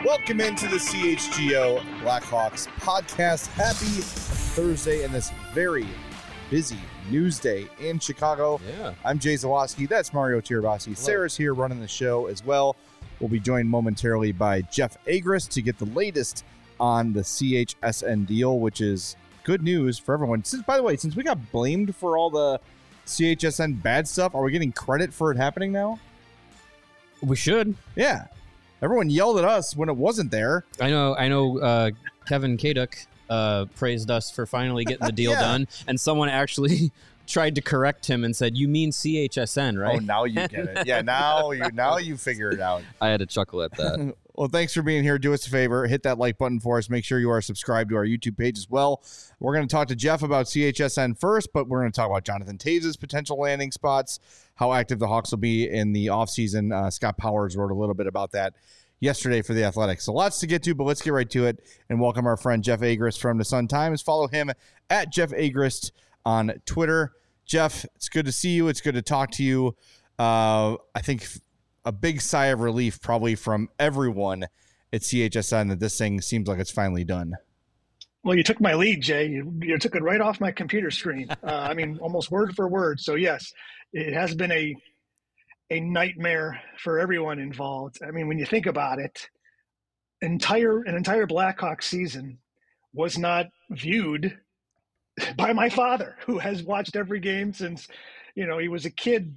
Welcome into the CHGO Blackhawks podcast. Happy Thursday and this very busy news day in Chicago. Yeah. I'm Jay Zawaski. That's Mario Tirabassi. Sarah's here running the show as well. We'll be joined momentarily by Jeff Agrest to get the latest on the CHSN deal, which is good news for everyone. By the way, since we got blamed for all the CHSN bad stuff, are we getting credit for it happening now? We should. Yeah. Everyone yelled at us when it wasn't there. I know. Kevin Kaduk praised us for finally getting the deal done, and someone actually tried to correct him and said, "You mean CHSN, right?" Oh, now you get it. Yeah, now you figure it out. I had to chuckle at that. Well, thanks for being here. Do us a favor. Hit that like button for us. Make sure you are subscribed to our YouTube page as well. We're going to talk to Jeff about CHSN first, but we're going to talk about Jonathan Toews' potential landing spots, how active the Hawks will be in the offseason. Scott Powers wrote a little bit about that yesterday for The Athletic. So lots to get to, but let's get right to it and welcome our friend Jeff Agrest from the Sun-Times. Follow him at Jeff Agrest on Twitter. Jeff, it's good to see you. It's good to talk to you. I think a big sigh of relief probably from everyone at CHSN that this thing seems like it's finally done. Well, you took my lead, Jay. You took it right off my computer screen. Almost word for word. So yes, it has been a nightmare for everyone involved. I mean, when you think about it, an entire Blackhawks season was not viewed by my father, who has watched every game since, he was a kid.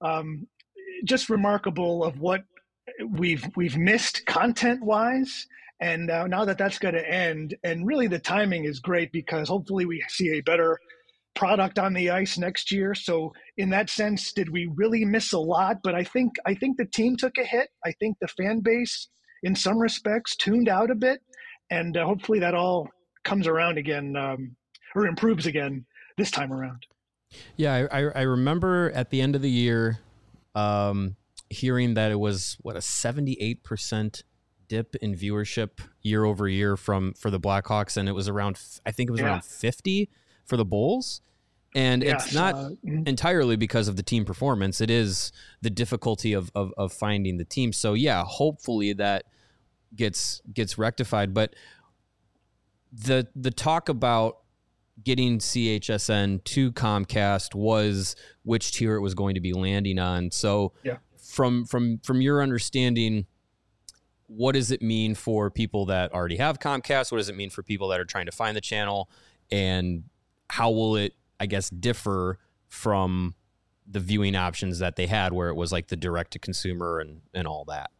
Just remarkable of what we've missed content-wise. And now that's going to end. And really the timing is great because hopefully we see a better product on the ice next year. So in that sense, did we really miss a lot? But I think the team took a hit. I think the fan base, in some respects, tuned out a bit. And hopefully that all comes around again or improves again this time around. Yeah, I remember at the end of the year hearing that it was, a 78% dip in viewership year over year for the Blackhawks. And it was around 50 for the Bulls. And it's not entirely because of the team performance. It is the difficulty of finding the team. So yeah, hopefully that gets rectified. But the talk about getting CHSN to Comcast was which tier it was going to be landing on. So from your understanding, what does it mean for people that already have Comcast? What does it mean for people that are trying to find the channel? And how will it, I guess, differ from the viewing options that they had where it was like the direct to consumer and all that?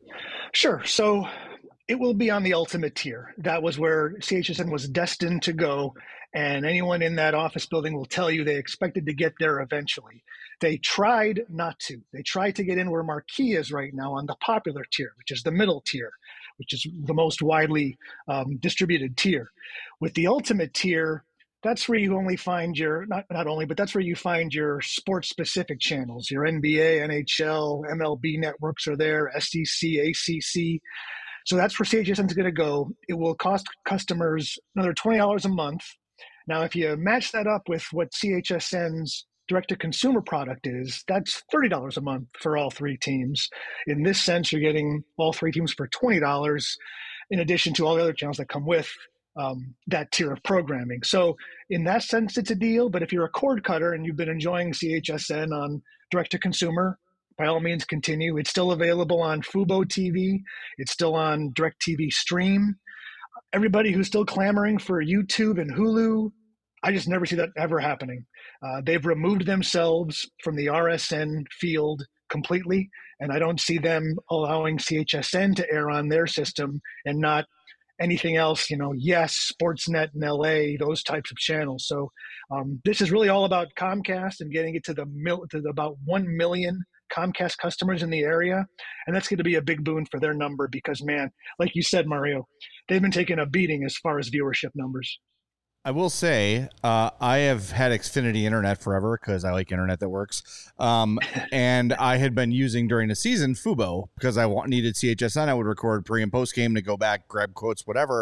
Sure. So it will be on the ultimate tier. That was where CHSN was destined to go. And anyone in that office building will tell you they expected to get there eventually. They tried not to. They tried to get in where Marquee is right now on the popular tier, which is the middle tier, which is the most widely distributed tier. With the ultimate tier, that's where you only find your, not only, but that's where you find your sports-specific channels. Your NBA, NHL, MLB networks are there, SEC, ACC. So that's where CHSN is going to go. It will cost customers another $20 a month. Now, if you match that up with what CHSN's direct-to-consumer product is, that's $30 a month for all three teams. In this sense, you're getting all three teams for $20 in addition to all the other channels that come with that tier of programming. So in that sense, it's a deal. But if you're a cord cutter and you've been enjoying CHSN on direct-to-consumer, by all means, continue. It's still available on Fubo TV. It's still on DirecTV Stream. Everybody who's still clamoring for YouTube and Hulu, I just never see that ever happening. They've removed themselves from the RSN field completely, and I don't see them allowing CHSN to air on their system and not anything else, Yes, Sportsnet in LA, those types of channels. So this is really all about Comcast and getting it to about 1 million Comcast customers in the area. And that's going to be a big boon for their number because, man, like you said, Mario, they've been taking a beating as far as viewership numbers. I will say I have had Xfinity Internet forever because I like internet that works. And I had been using during the season Fubo because I needed CHSN. I would record pre and post game to go back, grab quotes, whatever.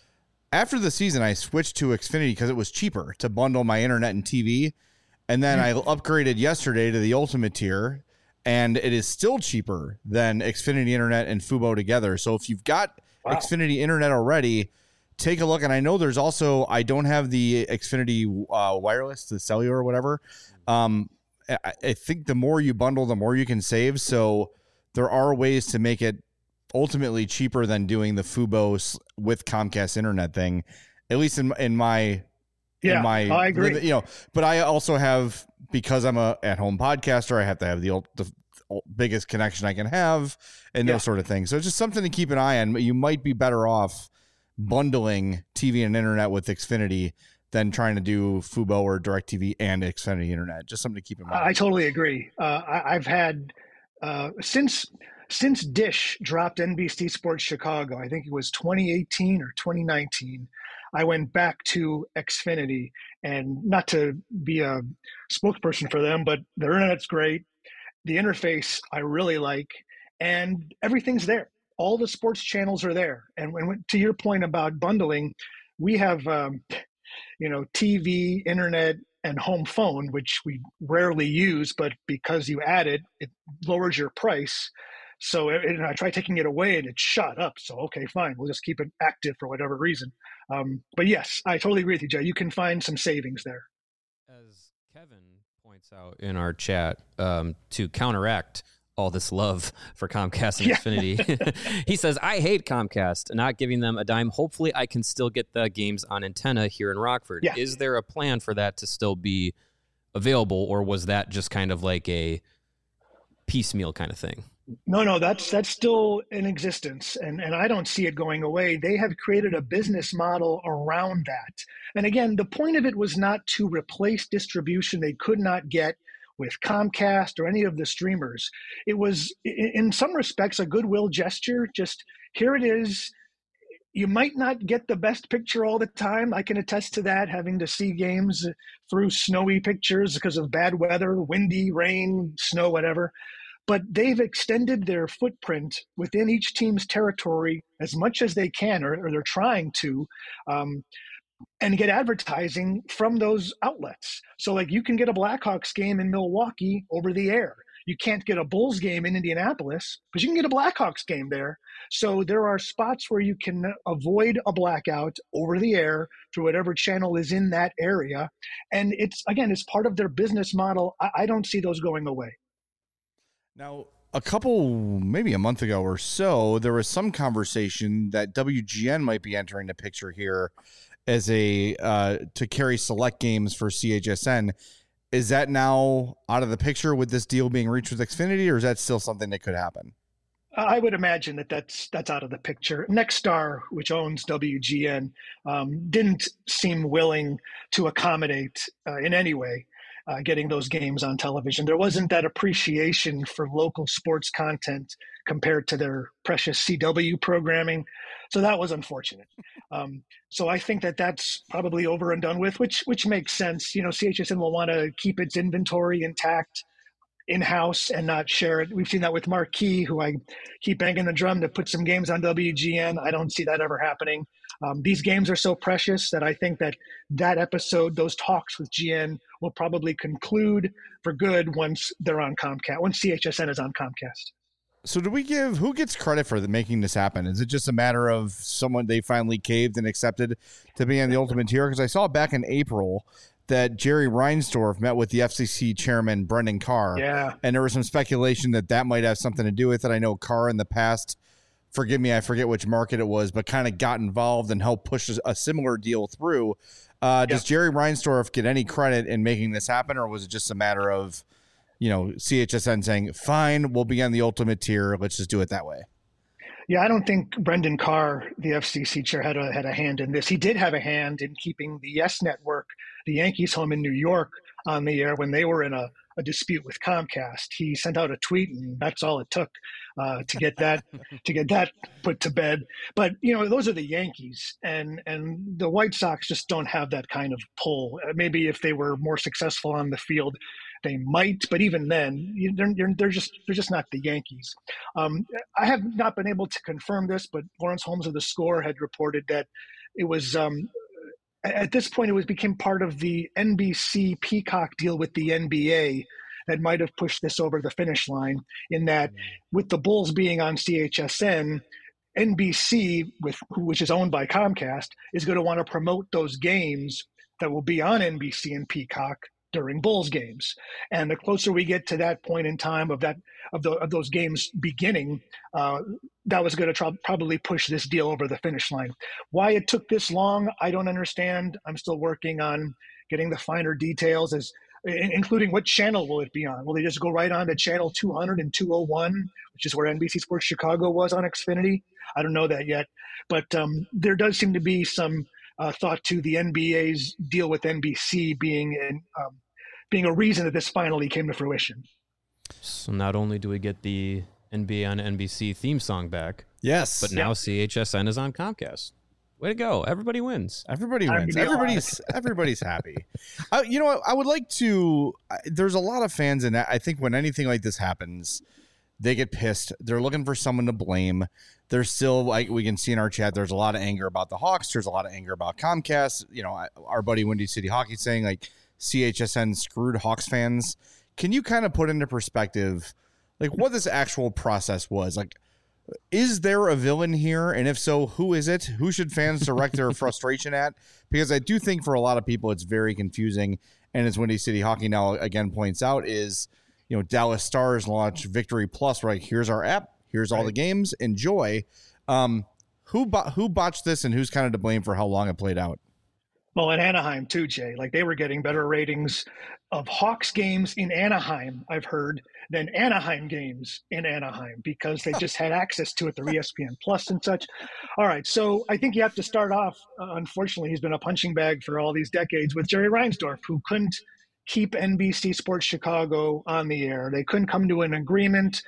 After the season, I switched to Xfinity because it was cheaper to bundle my internet and TV. And then I upgraded yesterday to the ultimate tier. and it is still cheaper than Xfinity Internet and Fubo together. So if you've got Xfinity Internet already, take a look. And I know there's also, I don't have the Xfinity wireless, the cellular or whatever. I think the more you bundle, the more you can save. So there are ways to make it ultimately cheaper than doing the Fubo with Comcast Internet thing, at least in my I agree. But I also have, because I'm a at-home podcaster, I have to have the biggest connection I can have and those sort of things. So it's just something to keep an eye on. You might be better off bundling TV and internet with Xfinity than trying to do Fubo or DirecTV and Xfinity Internet. Just something to keep in mind. I totally agree. I've had since Dish dropped NBC Sports Chicago, I think it was 2018 or 2019, I went back to Xfinity, and not to be a spokesperson for them, but their internet's great. The interface I really like, and everything's there. All the sports channels are there. And to your point about bundling, we have TV, internet, and home phone, which we rarely use, but because you add it, it lowers your price. So I tried taking it away and it shot up. So, okay, fine. We'll just keep it active for whatever reason. But yes, I totally agree with you, Jay. You can find some savings there. As Kevin points out in our chat, to counteract all this love for Comcast and Xfinity, he says, I hate Comcast, not giving them a dime. Hopefully I can still get the games on antenna here in Rockford. Yeah. Is there a plan for that to still be available, or was that just kind of like a piecemeal kind of thing? No, that's still in existence, and I don't see it going away. They have created a business model around that. And again, the point of it was not to replace distribution they could not get with Comcast or any of the streamers. It was, in some respects, a goodwill gesture. Just, here it is. You might not get the best picture all the time. I can attest to that, having to see games through snowy pictures because of bad weather, windy, rain, snow, whatever. But they've extended their footprint within each team's territory as much as they can, or they're trying to, and get advertising from those outlets. So like, you can get a Blackhawks game in Milwaukee over the air. You can't get a Bulls game in Indianapolis, but you can get a Blackhawks game there. So there are spots where you can avoid a blackout over the air through whatever channel is in that area. And it's part of their business model. I don't see those going away. Now, maybe a month ago or so, there was some conversation that WGN might be entering the picture here as to carry select games for CHSN. Is that now out of the picture with this deal being reached with Xfinity, or is that still something that could happen? I would imagine that's out of the picture. Nexstar, which owns WGN, didn't seem willing to accommodate in any way getting those games on television. There wasn't that appreciation for local sports content compared to their precious CW programming. So that was unfortunate. So I think that's probably over and done with, which makes sense. CHSN will want to keep its inventory intact in-house and not share it. We've seen that with Marquee, who I keep banging the drum to put some games on WGN. I don't see that ever happening. These games are so precious that I think that episode, those talks with GN, will probably conclude for good once they're on Comcast, once CHSN is on Comcast. So who gets credit for making this happen? Is it just a matter of someone they finally caved and accepted to be on the Ultimate Tier? Because I saw back in April that Jerry Reinsdorf met with the FCC chairman, Brendan Carr. Yeah. And there was some speculation that might have something to do with it. I know Carr in the past, forgive me, I forget which market it was, but kind of got involved and helped push a similar deal through. Does Jerry Reinsdorf get any credit in making this happen, or was it just a matter of, CHSN saying, fine, we'll be on the Ultimate Tier, let's just do it that way? Yeah, I don't think Brendan Carr, the FCC chair, had a hand in this. He did have a hand in keeping the Yes Network, the Yankees home in New York, on the air when they were in a dispute with Comcast. He sent out a tweet, and that's all it took to get that put to bed. But those are the Yankees, and the White Sox just don't have that kind of pull. Maybe if they were more successful on the field, they might, but even then, they're just not the Yankees. I have not been able to confirm this, but Lawrence Holmes of The Score had reported that it was at this point, became part of the NBC Peacock deal with the NBA, that might have pushed this over the finish line, in that with the Bulls being on CHSN, NBC, which is owned by Comcast, is going to want to promote those games that will be on NBC and Peacock during Bulls games. And the closer we get to that point in time of those games beginning, that was going to probably push this deal over the finish line. Why it took this long, I don't understand. I'm still working on getting the finer details, including what channel will it be on. Will they just go right on to channel 200 and 201, which is where NBC Sports Chicago was on Xfinity? I don't know that yet. But there does seem to be some thought to the NBA's deal with NBC being a reason that this finally came to fruition. So not only do we get the NBA on NBC theme song back, yes, but now CHSN is on Comcast. Way to go. Everybody wins. Everybody wins. Everybody's happy. You know what? I would like to, there's a lot of fans, and I think when anything like this happens, they get pissed. They're looking for someone to blame. There's still, like we can see in our chat, there's a lot of anger about the Hawks. There's a lot of anger about Comcast. You know, our buddy Windy City Hockey saying like CHSN screwed Hawks fans. Can you kind of put into perspective like what this actual process was? Like, is there a villain here? And if so, who is it? Who should fans direct their frustration at? Because I do think for a lot of people, it's very confusing. And as Windy City Hockey now again points out is, you know, Dallas Stars launched Victory Plus, right? Here's our app. Here's all the games. Enjoy. Who botched this and who's kind of to blame for how long it played out? Well, in Anaheim too, Jay. Like they were getting better ratings of Hawks games in Anaheim, I've heard, than Anaheim games in Anaheim because they just had access to it through ESPN Plus and such. All right, so I think you have to start off, unfortunately, he's been a punching bag for all these decades with Jerry Reinsdorf, who couldn't keep NBC Sports Chicago on the air. They couldn't come to an agreement.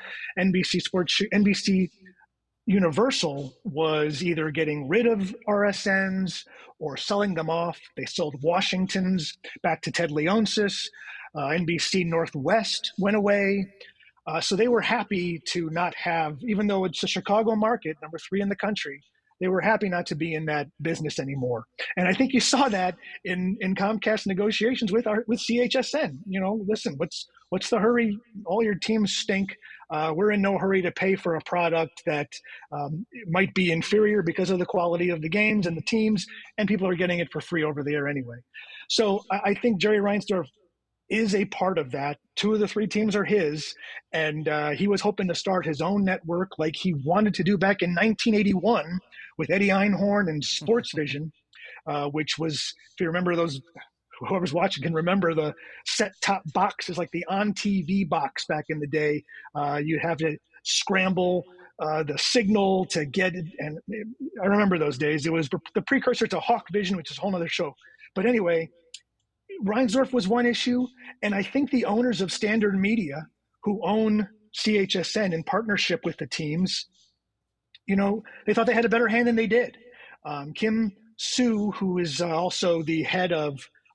NBC Universal was either getting rid of RSNs or selling them off. They sold Washington's back to Ted Leonsis. NBC Northwest went away. So they were happy to not have, even though it's a Chicago market, number 3 in the country, they were happy not to be in that business anymore. And I think you saw that in Comcast negotiations with CHSN. You know, listen, what's the hurry? All your teams stink. We're in no hurry to pay for a product that might be inferior because of the quality of the games and the teams, and people are getting it for free over the air anyway. So I think Jerry Reinsdorf is a part of that. 2 of the 3 teams are his, and he was hoping to start his own network like he wanted to do back in 1981 with Eddie Einhorn and Sports Vision, which was, if you remember those, whoever's watching can remember the set-top boxes, like the on-TV box back in the day. You'd have to scramble the signal to get it, and I remember those days. It was the precursor to Hawk Vision, which is a whole other show. But anyway, Reinsdorf was one issue, and I think the owners of Standard Media, who own CHSN in partnership with the teams, you know, they thought they had a better hand than they did. Kim Sue, who is also the head of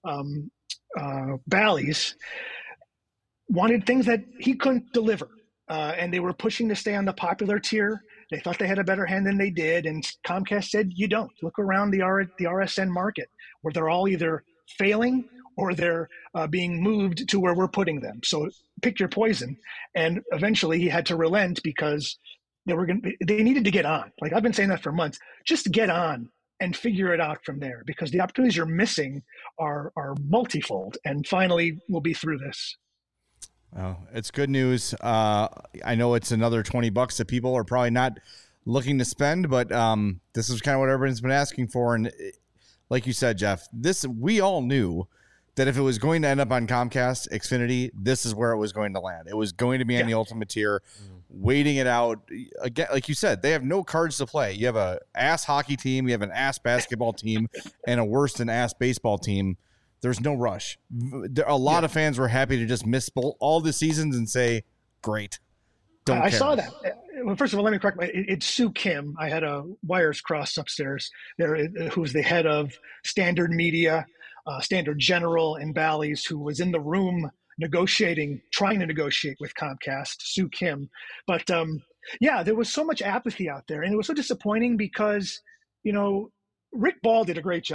Bally's, wanted things that he couldn't deliver, and they were pushing to stay on the popular tier. They thought they had a better hand than they did, and Comcast said, you don't. Look around the RSN market, where they're all either failing or they're being moved to where we're putting them. So pick your poison. And eventually he had to relent because they needed to get on. Like I've been saying that for months. Just get on and figure it out from there, because the opportunities you're missing are multifold. And finally, we'll be through this. Oh, it's good news. I know it's another $20 that people are probably not looking to spend, but this is kind of what everyone's been asking for. And like you said, Jeff, we all knew that if it was going to end up on Comcast, Xfinity, this is where it was going to land. It was going to be on the ultimate tier, waiting it out. Again, like you said, they have no cards to play. You have a ass hockey team, you have an ass basketball team, and a worse than ass baseball team. There's no rush. A lot of fans were happy to just miss all the seasons and say, great. I saw that. Well, first of all, let me correct it's Sue Kim. I had a wires cross upstairs there, who's the head of Standard Media, Standard General, and Bally's, who was in the room trying to negotiate with Comcast, Sue Kim. But there was so much apathy out there, and it was so disappointing because, you know, Rick Ball did a great job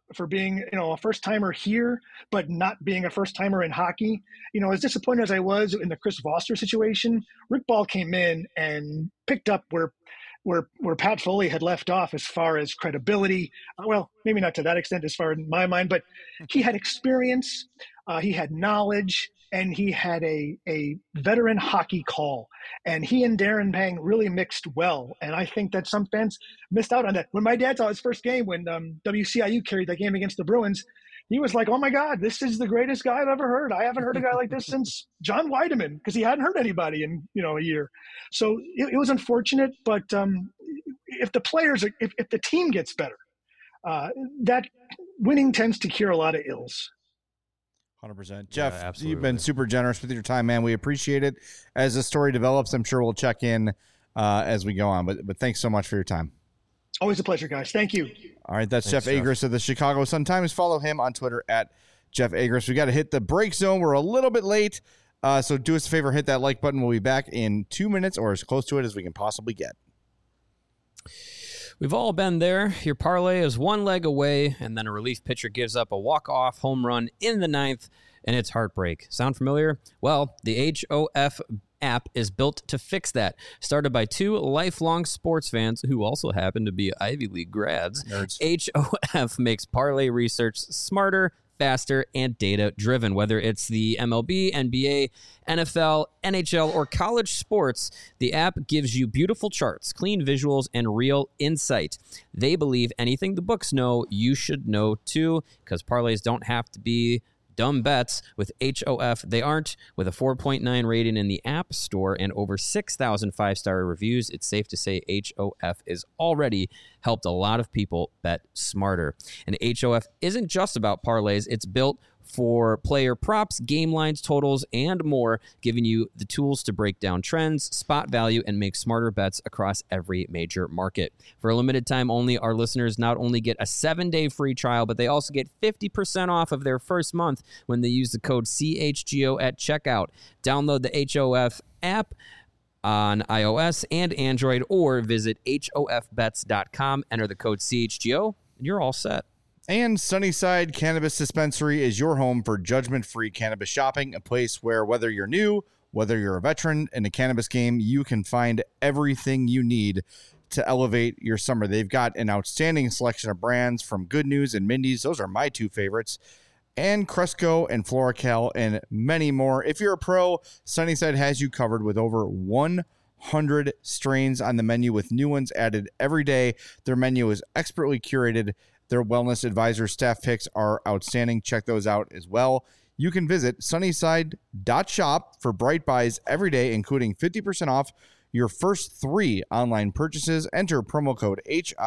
for being, a first timer here, but not being a first timer in hockey. As disappointed as I was in the Chris Foster situation, Rick Ball came in and picked up where Pat Foley had left off as far as credibility. Well, maybe not to that extent as far in my mind, but he had experience, he had knowledge, and he had a veteran hockey call. And he and Darren Pang really mixed well. And I think that some fans missed out on that. When my dad saw his first game, when WCIU carried that game against the Bruins, he was like, oh my God, this is the greatest guy I've ever heard. I haven't heard a guy like this since John Weideman, because he hadn't heard anybody in, a year. So it was unfortunate, but if the players, if the team gets better, that winning tends to cure a lot of ills. 100%. Jeff, absolutely. You've been super generous with your time, man. We appreciate it. As the story develops, I'm sure we'll check in as we go on. But thanks so much for your time. Always a pleasure, guys. Thank you. All right, that's Thanks, Jeff Agris of the Chicago Sun-Times. Follow him on Twitter at Jeff Agris. We got to hit the break zone. We're a little bit late, so do us a favor, hit that like button. We'll be back in 2 minutes or as close to it as we can possibly get. We've all been there. Your parlay is one leg away, and then a relief pitcher gives up a walk-off home run in the ninth, and it's heartbreak. Sound familiar? Well, the HOF app is built to fix that. Started by two lifelong sports fans who also happen to be Ivy League grads, Nerds. HOF makes parlay research smarter, faster, and data-driven. Whether it's the MLB, NBA, NFL, NHL, or college sports, the app gives you beautiful charts, clean visuals, and real insight. They believe anything the books know, you should know too, because parlays don't have to be dumb bets. With HOF, they aren't. With a 4.9 rating in the App Store and over 6,000 five-star reviews, it's safe to say HOF is already helped a lot of people bet smarter. And HOF isn't just about parlays. It's built for player props, game lines, totals, and more, giving you the tools to break down trends, spot value, and make smarter bets across every major market. For a limited time only, our listeners not only get a 7-day free trial, but they also get 50% off of their first month when they use the code CHGO at checkout. Download the HOF app on iOS and Android, or visit hofbets.com, enter the code CHGO, and you're all set. And Sunnyside Cannabis Dispensary is your home for judgment-free cannabis shopping, a place where whether you're new, whether you're a veteran in the cannabis game, you can find everything you need to elevate your summer. They've got an outstanding selection of brands from Good News and Mindy's. Those are my two favorites. And Cresco and FloraCal and many more. If you're a pro, Sunnyside has you covered with over 100 strains on the menu with new ones added every day. Their menu is expertly curated. Their wellness advisor staff picks are outstanding. Check those out as well. You can visit sunnyside.shop for bright buys every day, including 50% off your first 3 online purchases. Enter promo code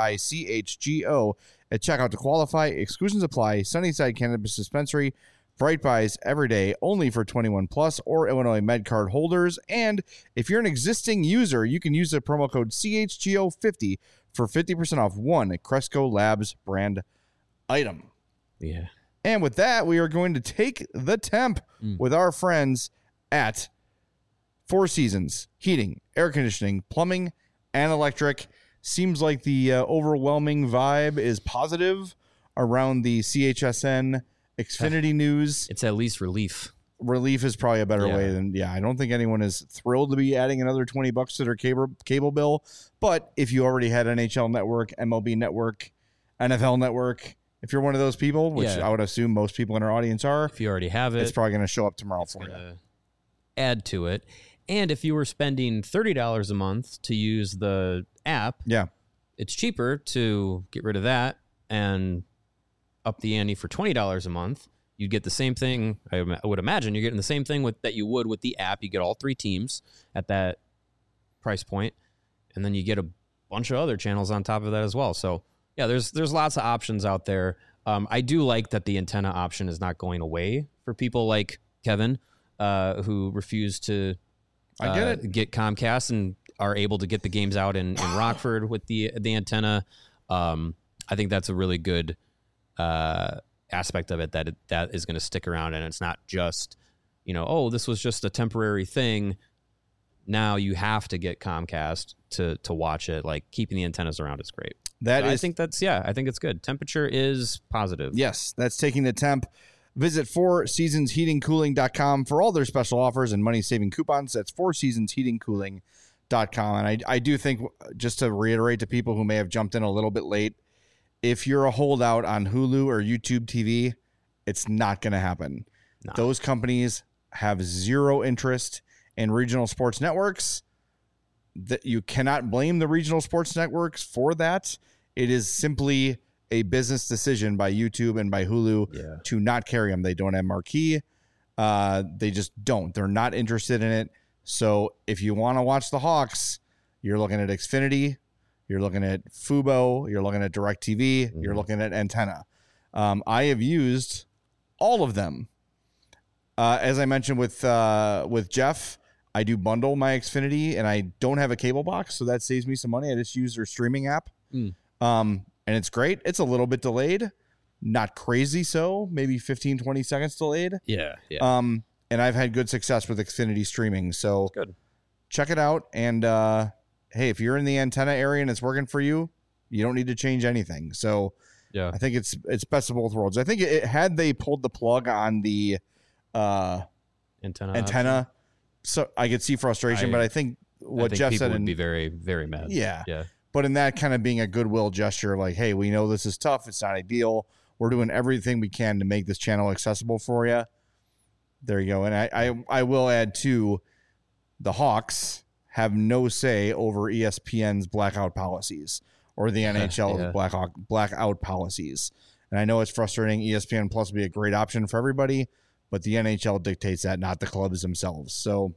HICHGO at checkout to qualify. Exclusions apply. Sunnyside Cannabis Dispensary. Bright buys every day, only for 21 plus or Illinois MedCard holders. And if you're an existing user, you can use the promo code CHGO50 for 50% off one Cresco Labs brand item. Yeah. And with that, we are going to take the temp with our friends at Four Seasons Heating, Air Conditioning, Plumbing, and Electric. Seems like the overwhelming vibe is positive around the CHSN Xfinity news. It's at least relief. Relief is probably a better way than, I don't think anyone is thrilled to be adding another $20 to their cable bill. But if you already had NHL Network, MLB Network, NFL Network, if you're one of those people, which I would assume most people in our audience are, if you already have it, it's probably going to show up tomorrow for you. Add to it. And if you were spending $30 a month to use the app, it's cheaper to get rid of that and up the ante for $20 a month. You'd get the same thing. I would imagine you're getting the same thing that you would with the app. You get all 3 teams at that price point, and then you get a bunch of other channels on top of that as well. So yeah, there's lots of options out there. I do like that the antenna option is not going away for people like Kevin, who refused to get Comcast and are able to get the games out in Rockford with the antenna. I think that's a really good aspect of it, that is going to stick around, and it's not just, this was just a temporary thing. Now you have to get Comcast to watch it. Like, keeping the antennas around is great. I think it's good. Temperature is positive. Yes, that's taking the temp. Visit fourseasonsheatingcooling.com for all their special offers and money-saving coupons. That's fourseasonsheatingcooling.com. And I do think, just to reiterate to people who may have jumped in a little bit late, if you're a holdout on Hulu or YouTube TV, it's not going to happen. No. Those companies have zero interest in regional sports networks. That you cannot blame the regional sports networks for that. It is simply a business decision by YouTube and by Hulu to not carry them. They don't have marquee. They just don't. They're not interested in it. So if you want to watch the Hawks, you're looking at Xfinity, you're looking at Fubo, you're looking at DirecTV, you're looking at Antenna. I have used all of them. As I mentioned with Jeff, I do bundle my Xfinity, and I don't have a cable box, so that saves me some money. I just use their streaming app. And it's great. It's a little bit delayed, not crazy so, maybe 15, 20 seconds delayed. Yeah. And I've had good success with Xfinity streaming, so good. Check it out. And hey, if you're in the Antenna area and it's working for you, you don't need to change anything. So I think it's best of both worlds. I think had they pulled the plug on the antenna, so I could see frustration, but I think Jeff said would be very, very mad. Yeah. Yeah. But in that kind of being a goodwill gesture, like, hey, we know this is tough. It's not ideal. We're doing everything we can to make this channel accessible for you. There you go. And I will add, too, the Hawks have no say over ESPN's blackout policies or the NHL's blackout policies. And I know it's frustrating. ESPN Plus would be a great option for everybody, but the NHL dictates that, not the clubs themselves. So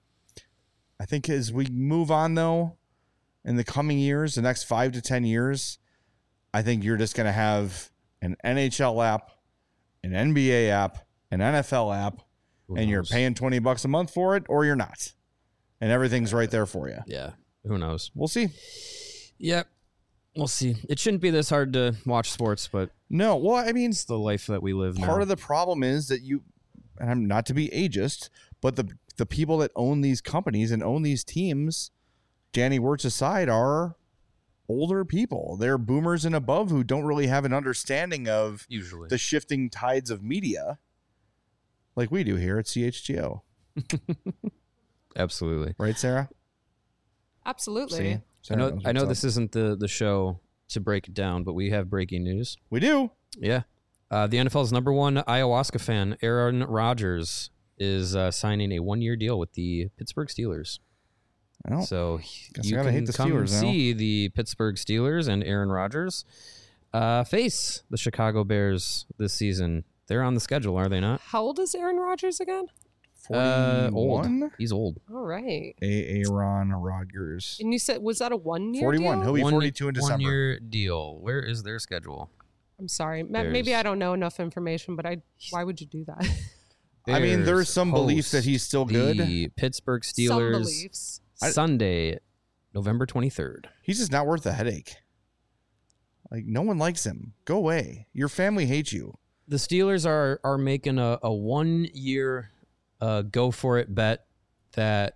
I think as we move on, though, in the coming years, the next 5 to 10 years, I think you're just going to have an NHL app, an NBA app, an NFL app, and you're paying $20 a month for it, or you're not. And everything's right there for you. Yeah. Who knows? We'll see. Yep. We'll see. It shouldn't be this hard to watch sports, but no. Well, I mean, it's the life that we live now. Part of the problem is that and I'm not to be ageist, but the people that own these companies and own these teams, Danny Wirtz aside, are older people. They're boomers and above who don't really have an understanding of usually the shifting tides of media like we do here at CHGO. Absolutely. Right, Sarah? Absolutely. See? I know this isn't the show to break it down, but we have breaking news. We do. Yeah. The NFL's number one ayahuasca fan, Aaron Rodgers, is signing a 1-year deal with the Pittsburgh Steelers. Well, so you can come see the Pittsburgh Steelers and Aaron Rodgers face the Chicago Bears this season. They're on the schedule, are they not? How old is Aaron Rodgers again? 41? Old. He's old. All right. Aaron Rodgers. And you said, was that a 1-year 41. deal? He'll be 42 in December. 1-year deal. Where is their schedule? I'm sorry. Maybe I don't know enough information, but why would you do that? I mean, there's some belief that he's still good. The Pittsburgh Steelers. Some beliefs. Sunday, November 23rd. He's just not worth the headache. Like, no one likes him. Go away. Your family hates you. The Steelers are making a 1-year go for it bet that,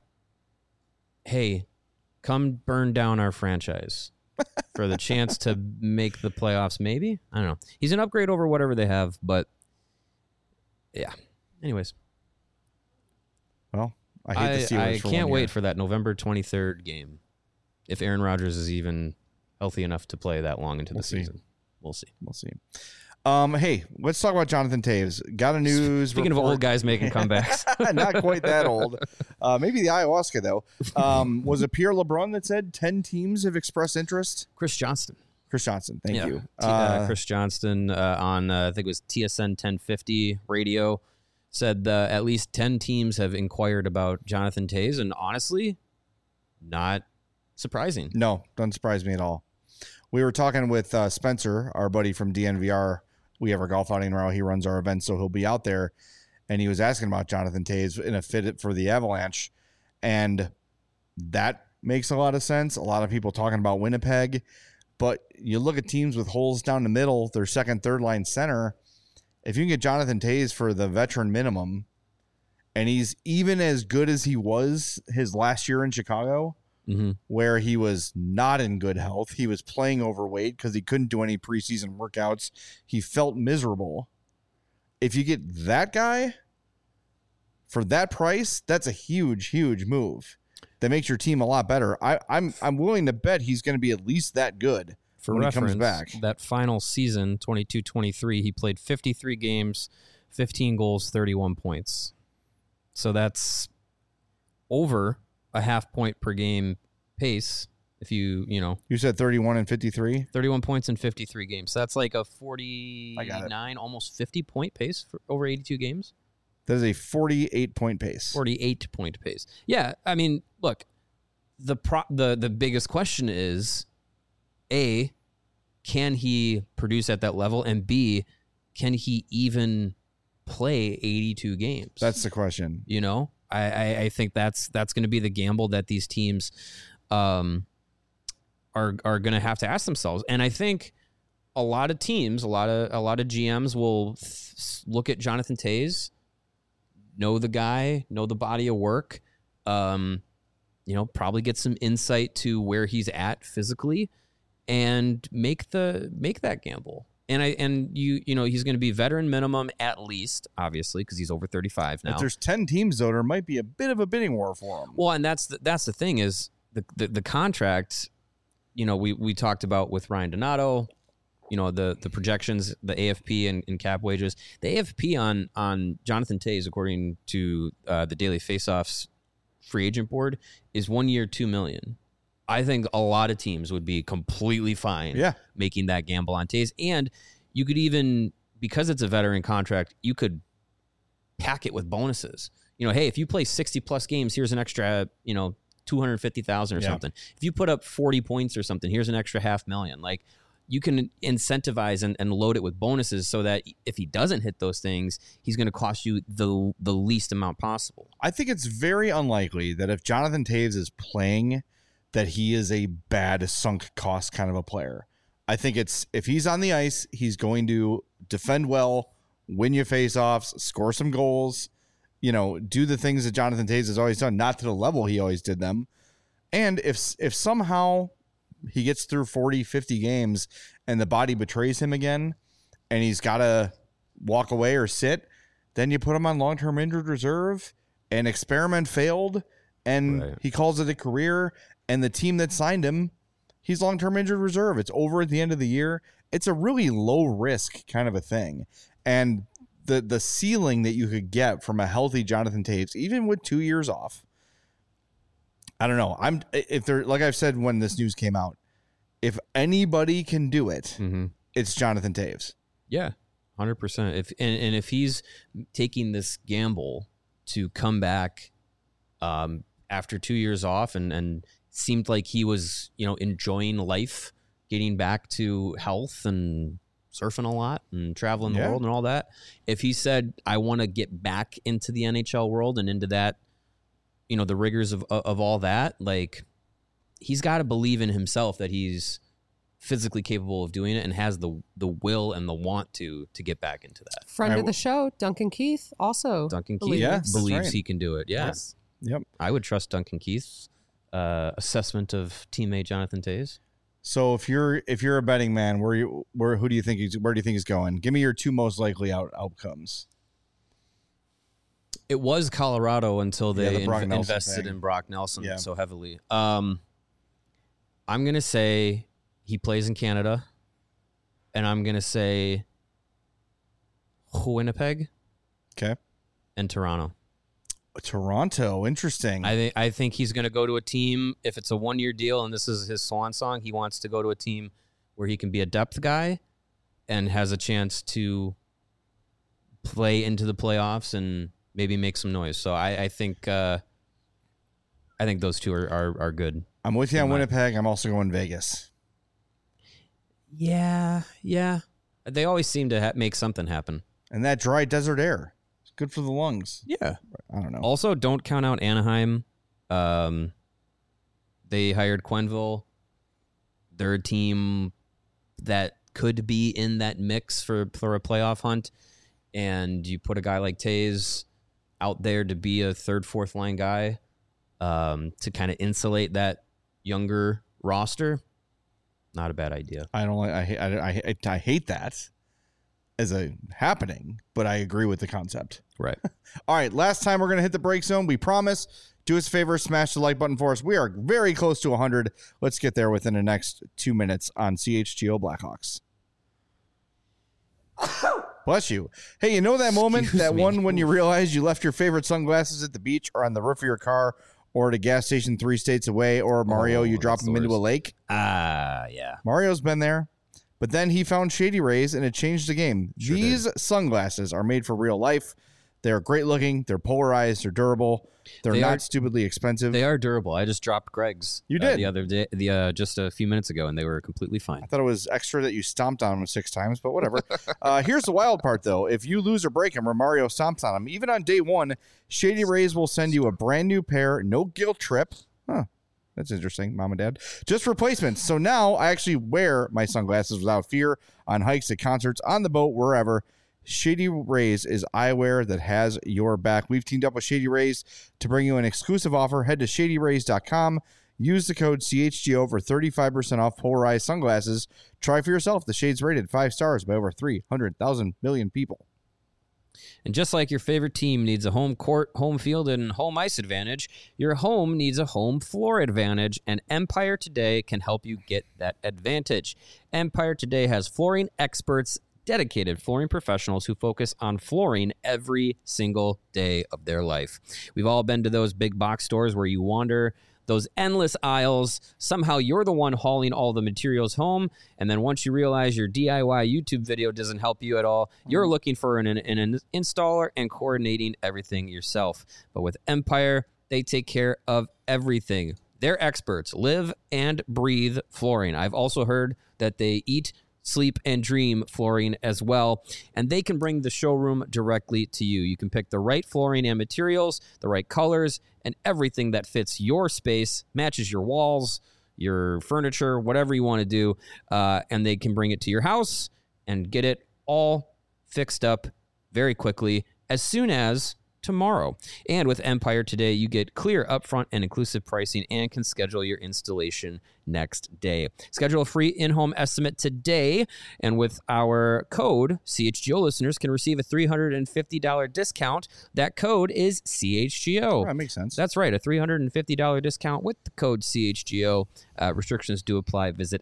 hey, come burn down our franchise for the chance to make the playoffs. Maybe, I don't know. He's an upgrade over whatever they have, but yeah. Anyways, well, I hate the Steelers. I can't wait for that November 23rd game. If Aaron Rodgers is even healthy enough to play that long into the season, we'll see. We'll see. Hey, let's talk about Jonathan Toews. Got a news. Speaking of old guys making comebacks, not quite that old. Maybe the ayahuasca though. Was it Pierre LeBrun that said 10 teams have expressed interest? Chris Johnston. Thank you. Chris Johnston on I think it was TSN 1050 radio said at least 10 teams have inquired about Jonathan Toews, and honestly, not surprising. No, doesn't surprise me at all. We were talking with Spencer, our buddy from DNVR. We have our golf outing tomorrow. He runs our event, so he'll be out there. And he was asking about Jonathan Toews in a fit for the Avalanche. And that makes a lot of sense. A lot of people talking about Winnipeg. But you look at teams with holes down the middle, their second, third line center. If you can get Jonathan Toews for the veteran minimum, and he's even as good as he was his last year in Chicago, where he was not in good health. He was playing overweight because he couldn't do any preseason workouts. He felt miserable. If you get that guy for that price, that's a huge, huge move. That makes your team a lot better. I'm willing to bet he's going to be at least that good when he comes back. That final season, 22-23, he played 53 games, 15 goals, 31 points. So that's over a half point per game pace. If you said 31 and 53, 31 points in 53 games. So that's like a 49, almost 50 point pace for over 82 games. That is a 48-point pace. 48-point pace. Yeah, I mean, look, the biggest question is, A, can he produce at that level? And B, can he even play 82 games? That's the question. I think that's going to be the gamble that these teams are going to have to ask themselves. And I think a lot of teams, a lot of GMs will look at Jonathan Toews, know the guy, know the body of work, probably get some insight to where he's at physically, and make that gamble. And he's going to be veteran minimum at least, obviously, because he's over 35 now. If there's 10 teams though, there might be a bit of a bidding war for him. Well, and that's the thing is the contract. We talked about with Ryan Donato. The projections, the AFP and cap wages. The AFP on Jonathan Toews, according to the Daily Faceoffs free agent board, is 1 year, $2 million. I think a lot of teams would be completely fine making that gamble on Toews. And you could even, because it's a veteran contract, you could pack it with bonuses. Hey, if you play 60 plus games, here's an extra, $250,000 or something. If you put up 40 points or something, here's an extra $500,000. Like, you can incentivize and load it with bonuses so that if he doesn't hit those things, he's going to cost you the least amount possible. I think it's very unlikely that if Jonathan Toews is playing, that he is a bad sunk cost kind of a player. I think if he's on the ice, he's going to defend well, win you faceoffs, score some goals, do the things that Jonathan Toews has always done, not to the level he always did them. And if somehow he gets through 40, 50 games and the body betrays him again and he's got to walk away or sit, then you put him on long-term injured reserve, and experiment failed, and he calls it a career, and the team that signed him, he's long-term injured reserve. It's over at the end of the year. It's a really low-risk kind of a thing. And the ceiling that you could get from a healthy Jonathan Toews, even with 2 years off, I don't know. Like I've said when this news came out, if anybody can do it, it's Jonathan Toews. Yeah, 100%. If he's taking this gamble to come back after 2 years off and seemed like he was, enjoying life, getting back to health and surfing a lot and traveling the world and all that. If he said, I want to get back into the NHL world and into that, the rigors of all that, like, he's got to believe in himself that he's physically capable of doing it and has the will and the want to get back into that. Friend of the show, Duncan Keith, also. Duncan Keith believes he can do it. Yes. Yep. I would trust Duncan Keith's assessment of teammate Jonathan Toews. So if you're a betting man, where do you think he's going? Give me your two most likely outcomes. It was Colorado until they invested in Brock Nelson so heavily. I'm going to say he plays in Canada, and I'm going to say Winnipeg. Okay. And Toronto. Toronto, interesting. I think he's going to go to a team, if it's a 1-year deal and this is his swan song, he wants to go to a team where he can be a depth guy and has a chance to play into the playoffs and maybe make some noise. So I think those two are good. I'm with you on Winnipeg. I'm also going Vegas. Yeah. They always seem to make something happen. And that dry desert air. It's good for the lungs. Yeah. I don't know. Also, don't count out Anaheim. They hired Quenneville. They're a team that could be in that mix for a playoff hunt. And you put a guy like Toews out there to be a third, fourth line guy to kind of insulate that younger roster, not a bad idea. I don't like. I hate that as a happening, but I agree with the concept. Right. All right, last time we're gonna hit the break zone. We promise. Do us a favor, smash the like button for us. We are very close to 100. Let's get there within the next 2 minutes on CHGO Blackhawks. Bless you. Hey, you know that moment, when you realize you left your favorite sunglasses at the beach or on the roof of your car or at a gas station 3 states away, or Mario, you drop them into a lake? Yeah. Mario's been there, but then he found Shady Rays and it changed the game. Sure These sunglasses are made for real life. They're great looking. They're polarized. They're durable. They're not stupidly expensive. They are durable. I just dropped Greg's. You did? The other day, just a few minutes ago, and they were completely fine. I thought it was extra that you stomped on them 6 times, but whatever. Here's the wild part, though. If you lose or break them or Mario stomps on them, even on day 1, Shady Rays will send you a brand new pair, no guilt trip. Huh. That's interesting, Mom and Dad. Just replacements. So now I actually wear my sunglasses without fear on hikes, at concerts, on the boat, wherever. Shady Rays is eyewear that has your back. We've teamed up with Shady Rays to bring you an exclusive offer. Head to shadyrays.com. Use the code CHGO for 35% off polarized sunglasses. Try for yourself. The shade's rated 5 stars by over 300,000 million people. And just like your favorite team needs a home court, home field, and home ice advantage, your home needs a home floor advantage, and Empire Today can help you get that advantage. Empire Today has flooring experts, dedicated flooring professionals who focus on flooring every single day of their life. We've all been to those big box stores where you wander those endless aisles. Somehow you're the one hauling all the materials home, and then once you realize your DIY YouTube video doesn't help you at all, you're looking for an installer and coordinating everything yourself. But with Empire, they take care of everything. They're experts. Live and breathe flooring. I've also heard that they eat, sleep, and dream flooring as well, and they can bring the showroom directly to you. You can pick the right flooring and materials, the right colors, and everything that fits your space, matches your walls, your furniture, whatever you want to do, and they can bring it to your house and get it all fixed up very quickly, as soon as tomorrow. And with Empire Today, you get clear upfront and inclusive pricing and can schedule your installation next day. Schedule a free in-home estimate today, and with our code, CHGO listeners can receive a $350 discount. That code is CHGO. Oh, that makes sense. That's right, a $350 discount with the code CHGO. Restrictions do apply. Visit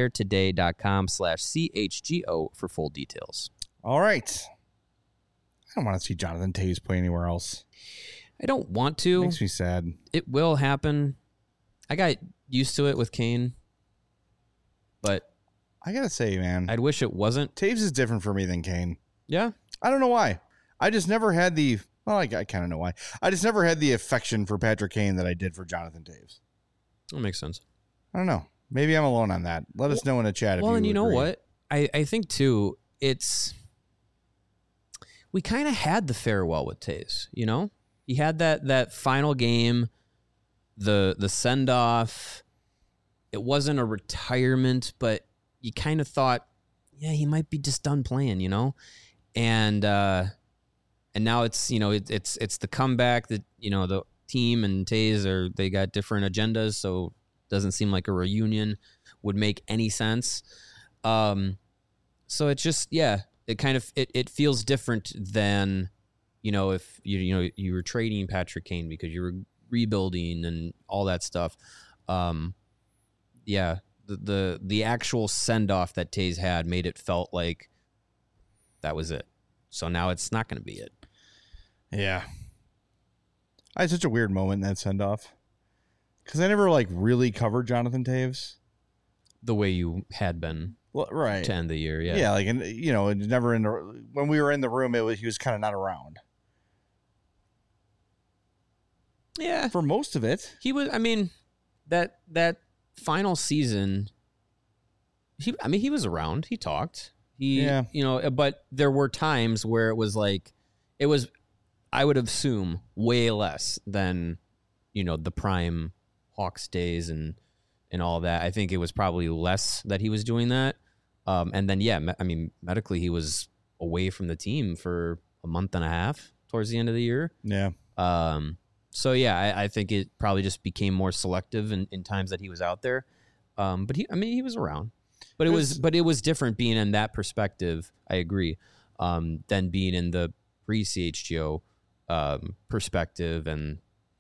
empiretoday.com/CHGO for full details. All right. I don't want to see Jonathan Toews play anywhere else. I don't want to. Makes me sad. It will happen. I got used to it with Kane, but I gotta say, man, I'd wish it wasn't. Toews is different for me than Kane. Yeah, I don't know why. I just never had the. Well, I kind of know why. I just never had the affection for Patrick Kane that I did for Jonathan Toews. that makes sense. I don't know. Maybe I'm alone on that. Let us know in the chat. Well, if and you know agree. what? I think too. We kind of had the farewell with Toews. You know, he had that final game, the send off. It wasn't a retirement, but you kind of thought, yeah, he might be just done playing. You know, and now it's it's the comeback that the team and Toews they got different agendas, so it doesn't seem like a reunion would make any sense. So it's just it kind of it feels different than if you were trading Patrick Kane because you were rebuilding and all that stuff. The actual send off that Toews had made it felt like that was it. So now it's not going to be it. Yeah, I had such a weird moment in that send off because I never really covered Jonathan Toews the way you had been. Well, right. To end the year, yeah. Yeah, never when we were in the room, he was kind of not around. Yeah. For most of it. He was, that final season, he was around. He talked. But there were times where it was I would assume way less than, the prime Hawks days and all that. I think it was probably less that he was doing that. And then, medically, he was away from the team for a month and a half towards the end of the year. Yeah. So yeah, I think it probably just became more selective in times that he was out there. But he was around. But it was different being in that perspective. I agree. Than being in the pre-CHGO perspective, and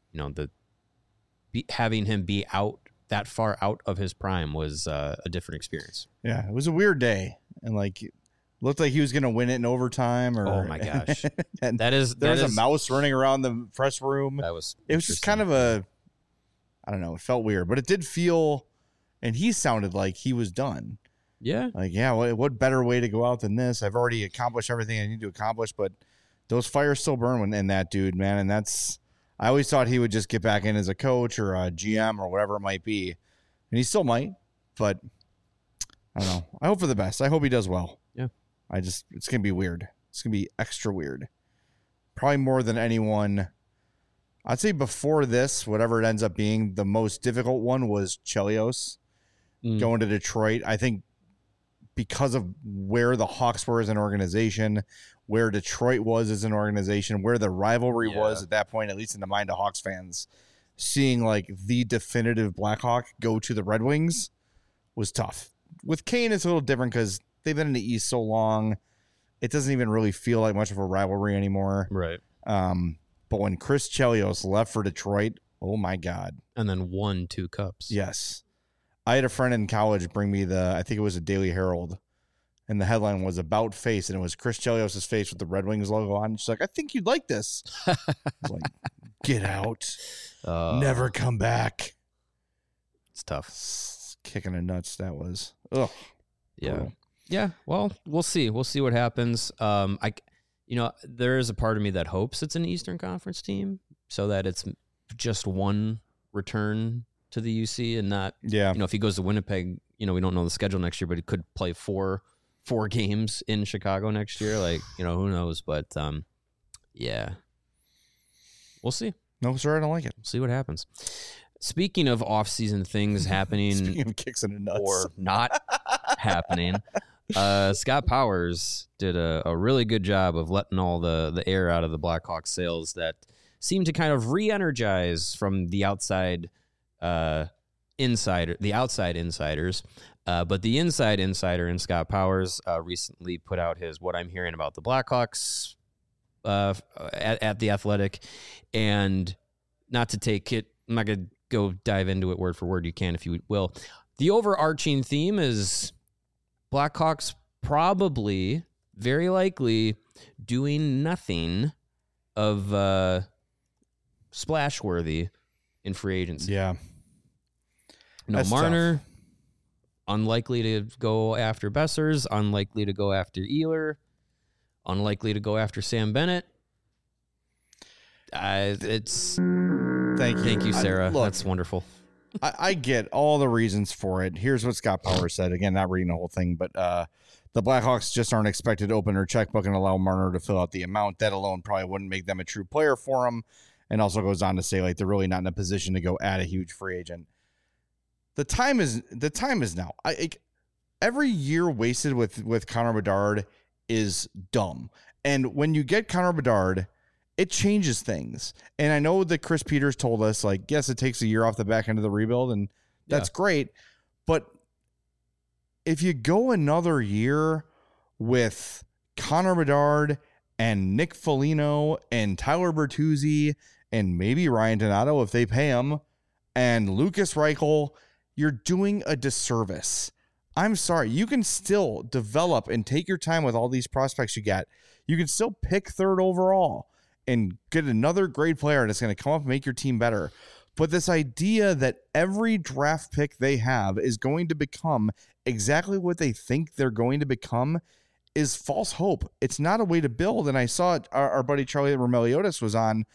having him be out that far out of his prime was a different experience. Yeah, it was a weird day, and looked like he was going to win it in overtime. Oh my gosh, and there was a mouse running around the press room. It was just kind of I don't know. It felt weird, but it did feel, and he sounded like he was done. Yeah. What better way to go out than this? I've already accomplished everything I need to accomplish, but those fires still burn in that dude, man. And I always thought he would just get back in as a coach or a GM or whatever it might be. And he still might, but I don't know. I hope for the best. I hope he does well. Yeah. It's going to be weird. It's going to be extra weird. Probably more than anyone. I'd say before this, whatever it ends up being, the most difficult one was Chelios going to Detroit. I think because of where the Hawks were as an organization, where Detroit was as an organization, where the rivalry was at that point, at least in the mind of Hawks fans, seeing the definitive Blackhawk go to the Red Wings was tough. With Kane, it's a little different because they've been in the East so long. It doesn't even really feel like much of a rivalry anymore. Right. But when Chris Chelios left for Detroit, oh my God. And then won 2 cups. Yes. I had a friend in college bring me I think it was a Daily Herald, and the headline was About Face, and it was Chris Chelios' face with the Red Wings logo on. She's like, I think you'd like this. I was like, get out. Never come back. It's tough. Kicking the nuts, that was. Ugh. Yeah. Cool. Yeah, well, we'll see. We'll see what happens. There is a part of me that hopes it's an Eastern Conference team so that it's just one return to the UC and not, if he goes to Winnipeg, we don't know the schedule next year, but he could play four games in Chicago next year. Who knows? But we'll see. No, sir, I don't like it. We'll see what happens. Speaking of off-season things happening, speaking of kicks in the nuts or not happening, Scott Powers did a really good job of letting all the air out of the Blackhawks sails that seemed to kind of re-energize from the outside insiders. But the inside insider in Scott Powers recently put out his What I'm Hearing About the Blackhawks at The Athletic. And not to take it, I'm not going to go dive into it word for word. You can if you will. The overarching theme is Blackhawks probably, very likely, doing nothing of splash-worthy in free agency. Yeah. No Marner, unlikely to go after Bessers, unlikely to go after Ehlers, unlikely to go after Sam Bennett. Thank you, Sarah. That's wonderful. I get all the reasons for it. Here's what Scott Powers said. Again, not reading the whole thing, but the Blackhawks just aren't expected to open their checkbook and allow Marner to fill out the amount. That alone probably wouldn't make them a true player for him. And also goes on to say they're really not in a position to go add a huge free agent. The time is now. Every year wasted with Connor Bedard is dumb. And when you get Connor Bedard, it changes things. And I know that Chris Peters told us, yes, it takes a year off the back end of the rebuild, and that's great. But if you go another year with Connor Bedard and Nick Foligno and Tyler Bertuzzi and maybe Ryan Donato if they pay him and Lucas Reichel, you're doing a disservice. I'm sorry. You can still develop and take your time with all these prospects you get. You can still pick third overall and get another great player that's going to come up and make your team better. But this idea that every draft pick they have is going to become exactly what they think they're going to become is false hope. It's not a way to build. And I saw our buddy Charlie Romeliotis was on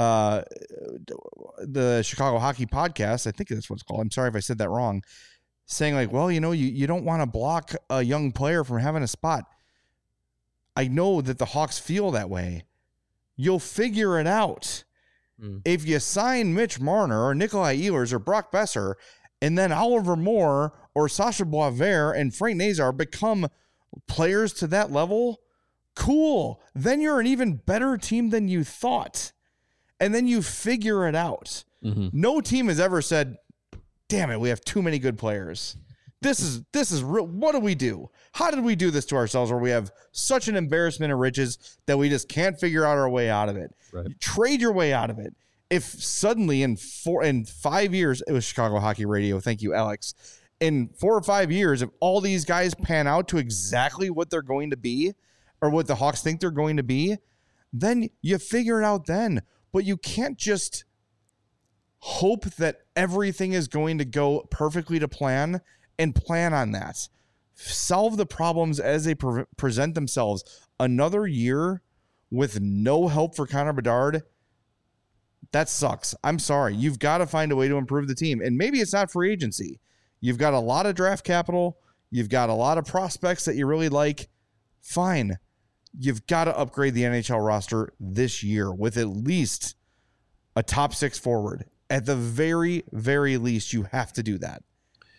the Chicago Hockey Podcast. I think that's what it's called. I'm sorry if I said that wrong. Saying you don't want to block a young player from having a spot. I know that the Hawks feel that way. You'll figure it out. If you sign Mitch Marner or Nikolai Ehlers or Brock Besser, and then Oliver Moore or Sasha Boisvert and Frank Nazar become players to that level, cool. Then you're an even better team than you thought. and then you figure it out. Mm-hmm. No team has ever said, damn it, we have too many good players. This is real. What do we do? How did we do this to ourselves where we have such an embarrassment of riches that we just can't figure out our way out of it? Right. Trade your way out of it. If suddenly in 5 years, it was Chicago Hockey Radio. Thank you, Alex. In 4 or 5 years, if all these guys pan out to exactly what they're going to be or what the Hawks think they're going to be, then you figure it out then. But you can't just hope that everything is going to go perfectly to plan and plan on that. Solve the problems as they present themselves. Another year with no help for Connor Bedard, that sucks. I'm sorry. You've got to find a way to improve the team. And maybe it's not free agency. You've got a lot of draft capital. You've got a lot of prospects that you really like. Fine. You've got to upgrade the NHL roster this year with at least a top 6 forward. At the very, very least, you have to do that.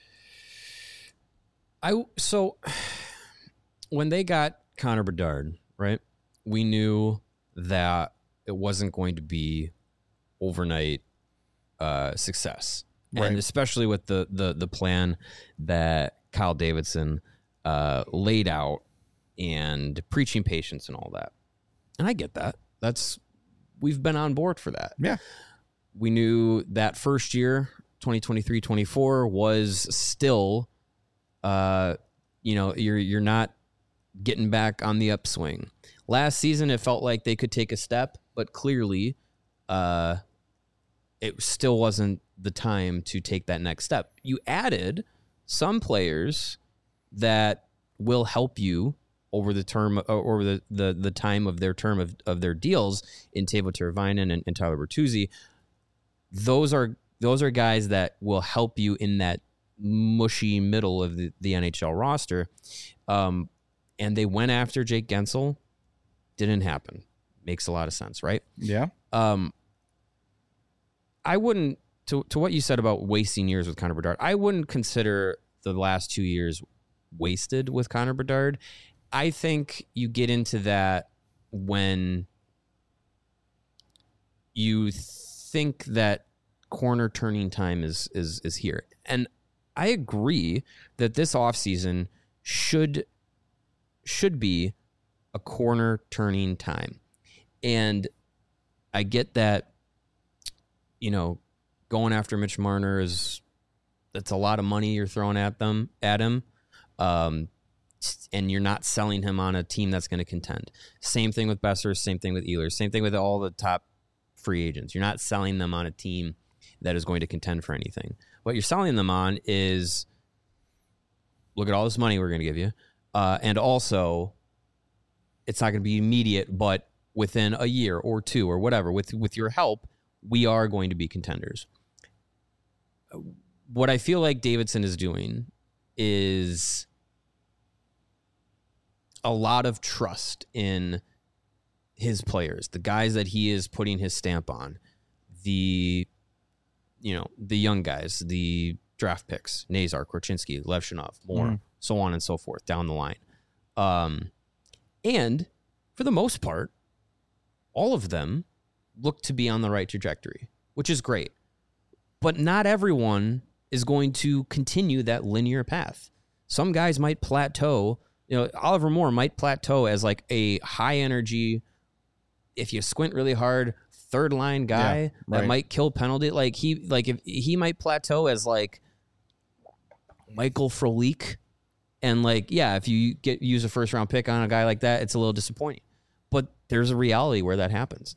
So when they got Connor Bedard, right, we knew that it wasn't going to be overnight success. Right. And especially with the plan that Kyle Davidson laid out and preaching patience and all that. And I get that. We've been on board for that. Yeah. We knew that first year, 2023-24, was still you're not getting back on the upswing. Last season, it felt like they could take a step, but clearly it still wasn't the time to take that next step. You added some players that will help you over the term or the time of their term of their deals in Teuvo Teravainen and Tyler Bertuzzi. Those are guys that will help you in that mushy middle of the NHL roster. And they went after Jake Gensel. Didn't happen. Makes a lot of sense, right? Yeah. I wouldn't, to what you said about wasting years with Connor Bedard, I wouldn't consider the last 2 years wasted with Connor Bedard. I think you get into that when you think that corner turning time is here. And I agree that this offseason should be a corner turning time. And I get that, going after Mitch Marner that's a lot of money you're throwing at him. And you're not selling him on a team that's going to contend. Same thing with Besser, same thing with Ehlers, same thing with all the top free agents. You're not selling them on a team that is going to contend for anything. What you're selling them on is, look at all this money we're going to give you. And also, it's not going to be immediate, but within a year or two or whatever, with your help, we are going to be contenders. What I feel like Davidson is doing is a lot of trust in his players, the guys that he is putting his stamp on, the young guys, the draft picks, Nazar, Korchinski, Levshunov, Moore, so on and so forth down the line. And for the most part, all of them look to be on the right trajectory, which is great. But not everyone is going to continue that linear path. Some guys might plateau. Oliver Moore might plateau as like a high energy, if you squint really hard, third line guy that might kill penalty. If he might plateau as like Michael Frolik, and if you use a first round pick on a guy like that, it's a little disappointing. But there's a reality where that happens.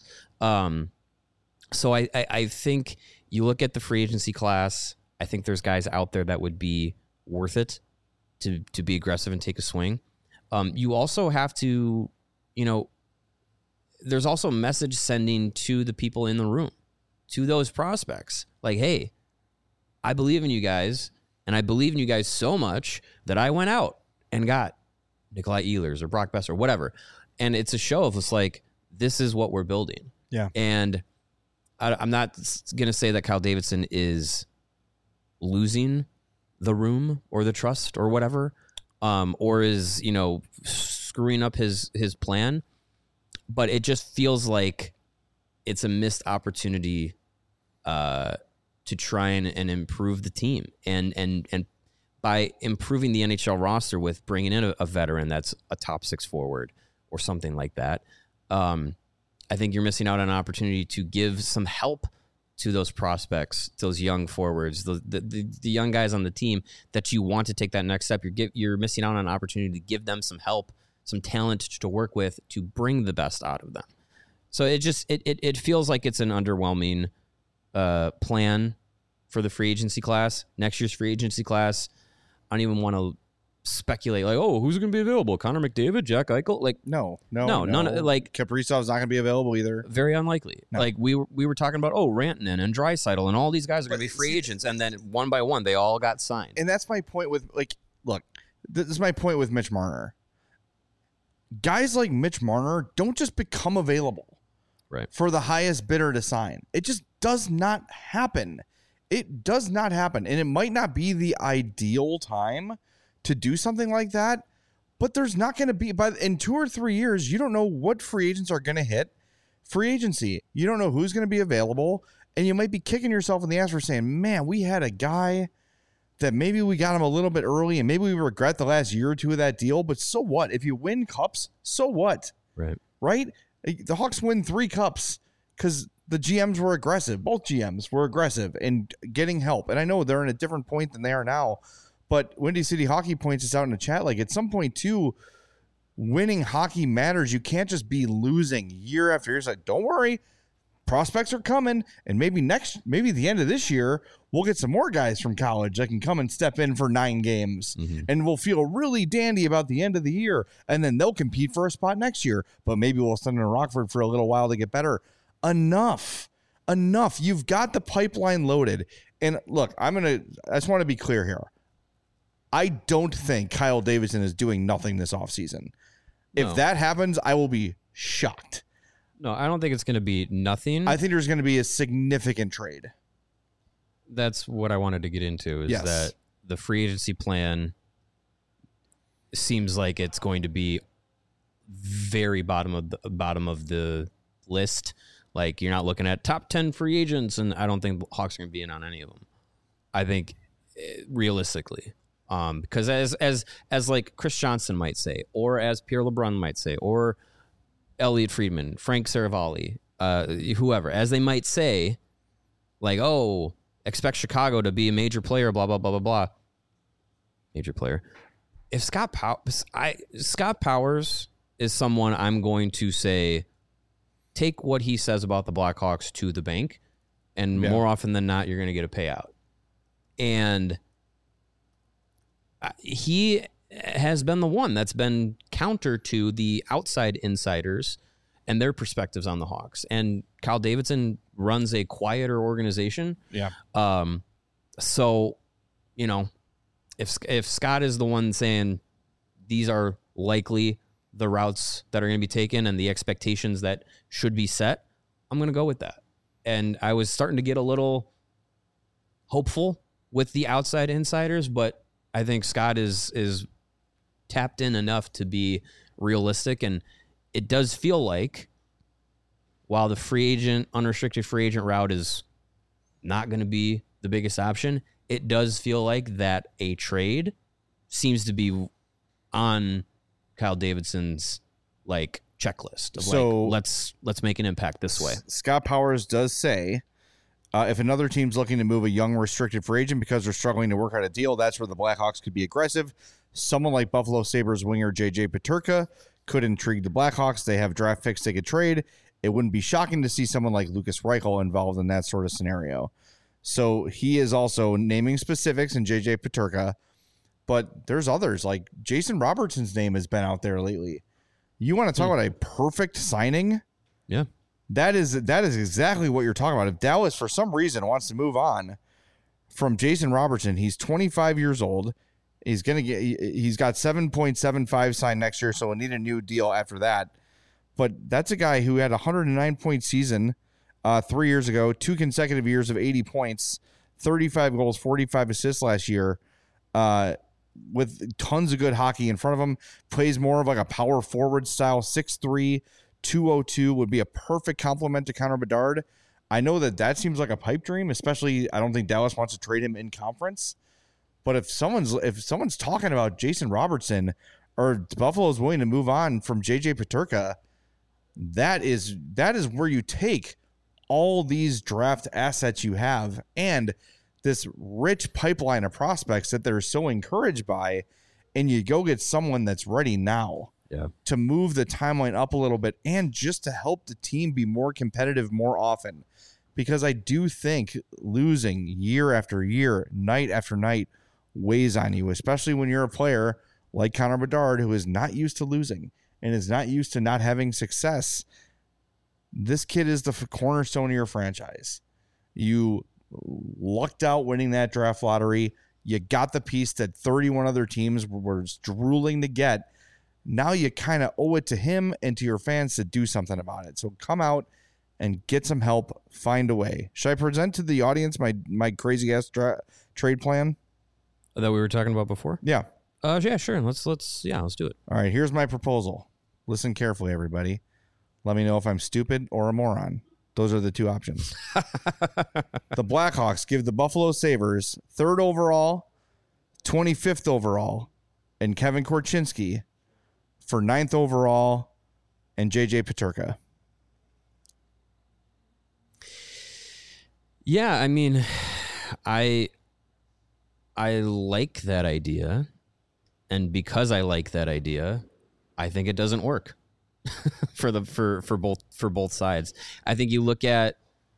So I think you look at the free agency class. I think there's guys out there that would be worth it to be aggressive and take a swing. You also have to, there's also message sending to the people in the room, to those prospects. Like, hey, I believe in you guys, and I believe in you guys so much that I went out and got Nikolai Ehlers or Brock Besser or whatever. And it's a show of just like, this is what we're building. Yeah. And I'm not going to say that Kyle Davidson is losing the room or the trust or whatever, or is, screwing up his plan. But it just feels like it's a missed opportunity to try and improve the team. And by improving the NHL roster with bringing in a veteran that's a top 6 forward or something like that, I think you're missing out on an opportunity to give some help to those prospects, those young forwards, the young guys on the team that you want to take that next step. You're missing out on an opportunity to give them some help, some talent to work with to bring the best out of them. So it feels like it's an underwhelming plan for the free agency class. Next year's free agency class, I don't even want to speculate like, oh, who's going to be available? Connor McDavid, Jack Eichel? Like, no. None. Like Kaprizov's not going to be available either. Very unlikely. No. Like we were talking about, Rantanen and Draisaitl and all these guys are going to be free agents, and then one by one they all got signed. And that's my point with look, this is my point with Mitch Marner. Guys like Mitch Marner don't just become available for the highest bidder to sign. It just does not happen. It does not happen, and it might not be the ideal time to do something like that, but there's not going to be, in 2 or 3 years, you don't know what free agents are going to hit free agency. You don't know who's going to be available, and you might be kicking yourself in the ass for saying, man, we had a guy that maybe we got him a little bit early, and maybe we regret the last year or two of that deal, but so what? If you win cups, so what? Right? The Hawks win 3 cups because the GMs were aggressive. Both GMs were aggressive in getting help, and I know they're in a different point than they are now. But Windy City Hockey points us out in the chat, like at some point too, winning hockey matters. You can't just be losing year after year. It's like, don't worry, prospects are coming, and maybe the end of this year, we'll get some more guys from college that can come and step in for 9 games, and we'll feel really dandy about the end of the year, and then they'll compete for a spot next year. But maybe we'll send them to Rockford for a little while to get better. Enough. You've got the pipeline loaded. And look, I just want to be clear here. I don't think Kyle Davidson is doing nothing this offseason. If that happens, I will be shocked. No, I don't think it's going to be nothing. I think there's going to be a significant trade. That's what I wanted to get into, is that the free agency plan seems like it's going to be very bottom of the list. Like, you're not looking at top 10 free agents, and I don't think the Hawks are going to be in on any of them. I think realistically. Because as like Chris Johnson might say, or as Pierre LeBrun might say, or Elliot Friedman, Frank Saravalli, whoever, as they might say, like, oh, expect Chicago to be a major player, blah, blah, blah, blah, blah. Major player. If Scott Powers is someone I'm going to say, take what he says about the Blackhawks to the bank, and more often than not, you're going to get a payout. And he has been the one that's been counter to the outside insiders and their perspectives on the Hawks. And Kyle Davidson runs a quieter organization. Yeah. So, if Scott is the one saying these are likely the routes that are going to be taken and the expectations that should be set, I'm going to go with that. And I was starting to get a little hopeful with the outside insiders, but I think Scott is tapped in enough to be realistic, and it does feel like, while the unrestricted free agent route is not going to be the biggest option, it does feel like that a trade seems to be on Kyle Davidson's checklist of let's make an impact this way. Scott Powers does say, if another team's looking to move a young restricted free agent because they're struggling to work out a deal, that's where the Blackhawks could be aggressive. Someone like Buffalo Sabres winger JJ Peterka could intrigue the Blackhawks. They have draft picks they could trade. It wouldn't be shocking to see someone like Lucas Reichel involved in that sort of scenario. So he is also naming specifics in JJ Peterka, but there's others. Like Jason Robertson's name has been out there lately. You want to talk about a perfect signing? Yeah. That is exactly what you're talking about. If Dallas, for some reason, wants to move on from Jason Robertson, he's 25 years old. He's got 7.75 signed next year, so we'll need a new deal after that. But that's a guy who had a 109-point season 3 years ago, 2 consecutive years of 80 points, 35 goals, 45 assists last year, with tons of good hockey in front of him. Plays more of like a power forward style, 6'3", 202 would be a perfect complement to Connor Bedard. I know that seems like a pipe dream, especially I don't think Dallas wants to trade him in conference. But if someone's talking about Jason Robertson or Buffalo's willing to move on from JJ Peterka, that is where you take all these draft assets you have and this rich pipeline of prospects that they're so encouraged by, and you go get someone that's ready now to move the timeline up a little bit and just to help the team be more competitive more often. Because I do think losing year after year, night after night, weighs on you, especially when you're a player like Connor Bedard, who is not used to losing and is not used to not having success. This kid is the cornerstone of your franchise. You lucked out winning that draft lottery. You got the piece that 31 other teams were drooling to get. Now you kind of owe it to him and to your fans to do something about it. So come out and get some help. Find a way. Should I present to the audience my crazy ass trade plan that we were talking about before? Yeah. Yeah, sure. Let's do it. All right. Here's my proposal. Listen carefully, everybody. Let me know if I'm stupid or a moron. Those are the two options. The Blackhawks give the Buffalo Sabres 3rd overall, 25th overall, and Kevin Korchinski for 9th overall and JJ Peterka. Yeah, I mean, I like that idea, and because I like that idea, I think it doesn't work for both sides. I think you look at,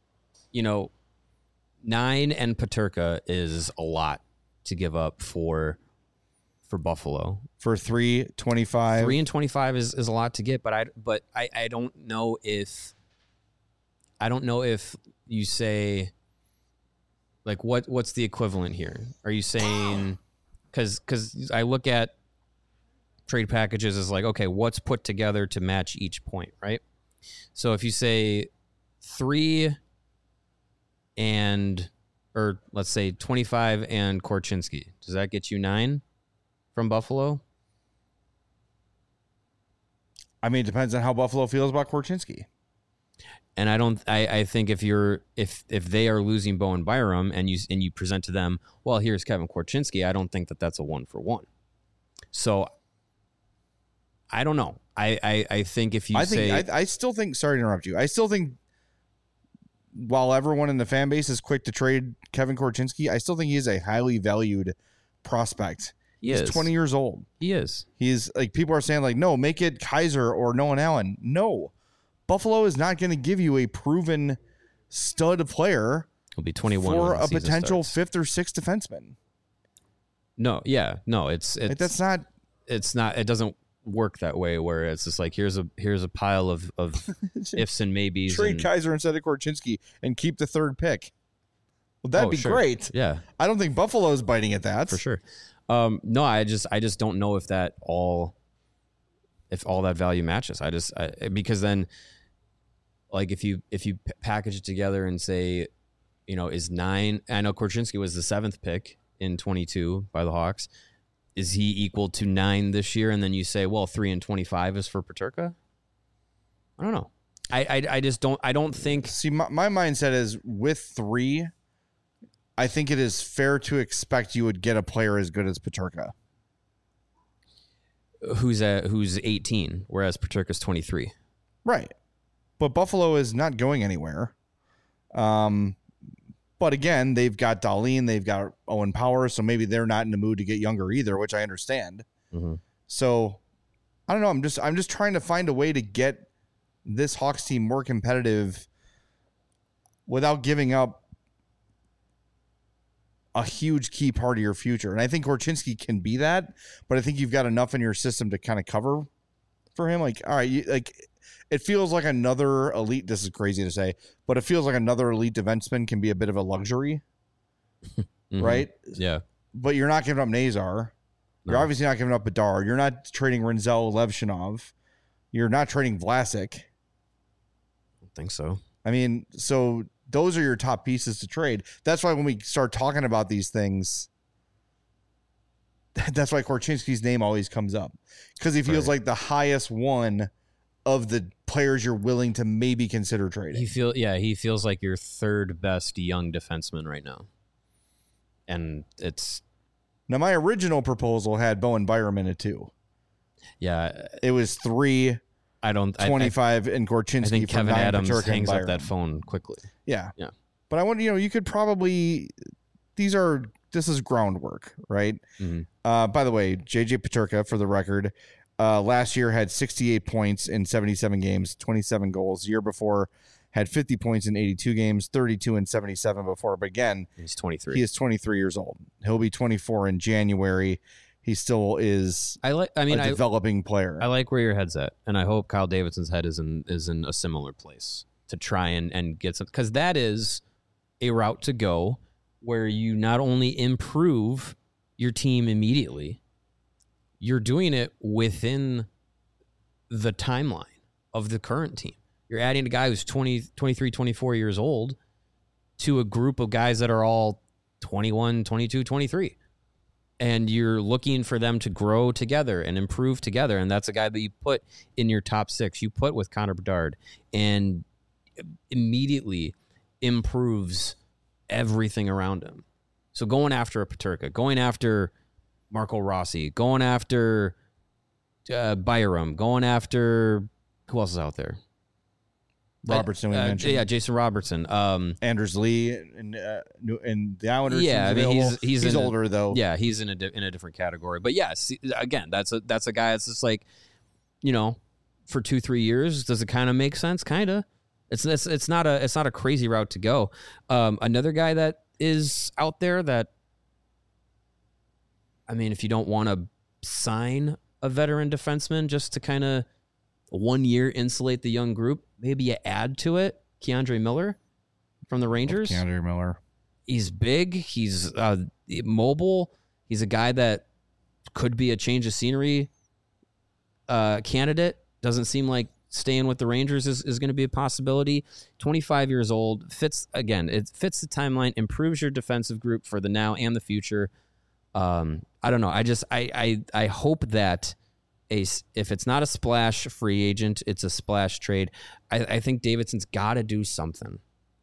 9 and Peterka is a lot to give up for Buffalo. For 3.25. 3 and 25 is a lot to get, but I don't know if you say, like, what's the equivalent here? Are you saying, because I look at trade packages as like, okay, what's put together to match each point, right? So if you say 3 or let's say 25 and Korchinski, does that get you 9 from Buffalo? I mean, it depends on how Buffalo feels about Korchinski. And I think if they are losing Bowen Byram and you present to them, well, here's Kevin Korchinski, I don't think that's a 1-for-1. So I don't know. I think if you I still think, sorry to interrupt you. I still think while everyone in the fan base is quick to trade Kevin Korchinski, I still think he is a highly valued prospect. He's 20 years old. He is. He's like, people are saying like, no, make it Kaiser or Nolan Allen. No. Buffalo is not going to give you a proven stud player. He'll be 21 for a potential starts. 5th or 6th defenseman. No, yeah, no, it's like, that's not. It's not. It doesn't work that way. Where it's just like here's a pile of ifs and maybes. Trade Kaiser instead of Korchinski and keep the 3rd pick. Well, that'd be great. Yeah, I don't think Buffalo's biting at that for sure. No, I just don't know if all that value matches. Because then, like, if you package it together and say, is 9, I know Korchinski was the 7th pick in 22 by the Hawks. Is he equal to 9 this year? And then you say, well, 3 and 25 is for Peterka. I don't know. I just don't. I don't think. See, my mindset is with 3. I think it is fair to expect you would get a player as good as Peterka. Who's 18, whereas Peterka's 23. Right. But Buffalo is not going anywhere. But again, they've got Dahlin, they've got Owen Power, so maybe they're not in the mood to get younger either, which I understand. Mm-hmm. So I don't know. I'm just trying to find a way to get this Hawks team more competitive without giving up a huge key part of your future. And I think Korchinski can be that, but I think you've got enough in your system to kind of cover for him. Like, all right, it feels like another elite, this is crazy to say, but it feels like another elite defenseman can be a bit of a luxury, mm-hmm. right? Yeah. But you're not giving up Nazar. You're obviously not giving up Bedard. You're not trading Renzel Levshinov. You're not trading Vlasic. I don't think so. I mean, so those are your top pieces to trade. That's why when we start talking about these things, that's why Korchinski's name always comes up, because he feels like the highest one of the players you're willing to maybe consider trading. He feels like your third best young defenseman right now. And it's... Now, my original proposal had Bowen Byram in it, too. Yeah. It was 3, 25, and Korchinski. I think from Kevin 9, Adams Peterka, hangs and up that phone quickly. Yeah. Yeah. But I want, you could probably... This is groundwork, right? Mm-hmm. By the way, JJ Peterka, for the record, last year had 68 points in 77 games, 27 goals. The year before had 50 points in 82 games, 32 in 77 before. But again, he's 23. He is 23 years old. He'll be 24 in January. He still is a developing player. I like where your head's at, and I hope Kyle Davidson's head is in a similar place to try and get some, because that is a route to go where you not only improve your team immediately, you're doing it within the timeline of the current team. You're adding a guy who's 23, 24 years old to a group of guys that are all 21, 22, 23. And you're looking for them to grow together and improve together. And that's a guy that you put in your top 6. You put with Connor Bedard and immediately improves everything around him. So going after a Peterka, going after Marco Rossi, going after Byram, going after who else is out there? Robertson, we mentioned. Jason Robertson. Anders Lee and the Islanders. Yeah, I mean he's older though. Yeah, he's in a different category. But yes, again, that's a guy that's just like, for 2-3 years, does it kind of make sense? Kind of. It's not a crazy route to go. Another guy that is out there that, I mean, if you don't want to sign a veteran defenseman just to kind of 1 year insulate the young group, maybe you add to it Keandre Miller from the Rangers. Keandre Miller. He's big. He's mobile. He's a guy that could be a change of scenery candidate. Doesn't seem like staying with the Rangers is going to be a possibility. 25 years old. It fits the timeline, improves your defensive group for the now and the future. I don't know. I hope that if it's not a splash free agent, it's a splash trade. I think Davidson's got to do something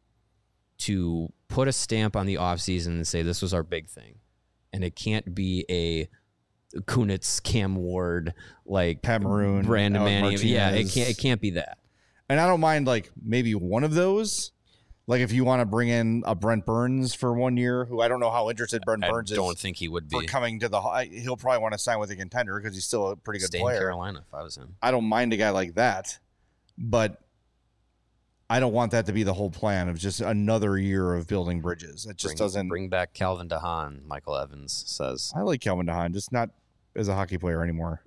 to put a stamp on the offseason and say this was our big thing. And it can't be a Kunitz, Cam Ward, like Pat Maroon, Brandon Manning. Martinez. Yeah, it can't be that. And I don't mind like maybe one of those. Like if you want to bring in a Brent Burns for 1 year, who I don't know how interested Brent Burns is. I don't think he would be. For coming to he'll probably want to sign with a contender because he's still a pretty good player. Stay in Carolina if I was him. I don't mind a guy like that, but I don't want that to be the whole plan of just another year of building bridges. It just doesn't bring back Calvin DeHaan. Michael Evans says I like Calvin DeHaan, just not as a hockey player anymore.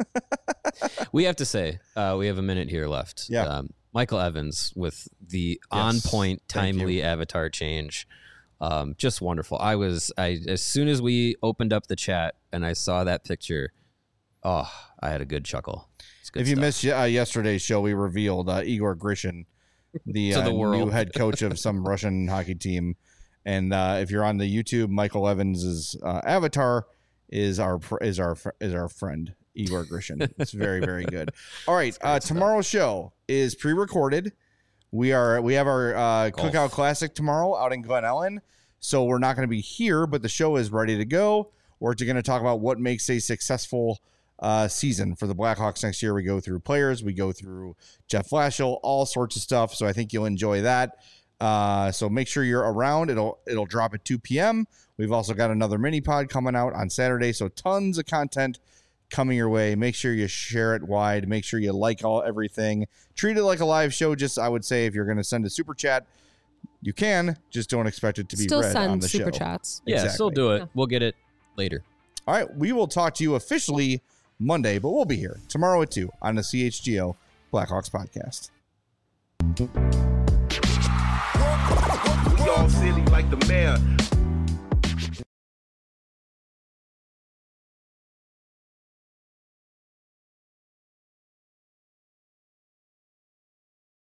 We have to say we have a minute here left. Yeah. Michael Evans with the on-point, timely avatar change. Just wonderful. As soon as we opened up the chat and I saw that picture, I had a good chuckle. If you missed yesterday's show, we revealed Igor Grishin, the new head coach of some Russian hockey team. And if you're on the YouTube, Michael Evans's avatar is our friend Igor Grishin. It's very, very good. All right, tomorrow's show is pre-recorded. We have our Cookout Classic tomorrow out in Glen Ellen, so we're not going to be here, but the show is ready to go. We're going to talk about what makes a successful season for the Blackhawks next year. We go through players, we go through Jeff Blashill, all sorts of stuff. So I think you'll enjoy that. So make sure you're around. It'll drop at 2 p.m. We've also got another mini pod coming out on Saturday. So tons of content coming your way. Make sure you share it wide. Make sure you like everything. Treat it like a live show. Just, I would say, if you're going to send a super chat, you can. Just don't expect it to be still read on the send super show. chats. Yeah, Exactly. still do it. Yeah. We'll get it later. All right, we will talk to you officially Monday, but we'll be here tomorrow at 2 on the CHGO Blackhawks podcast. We all silly like the mayor.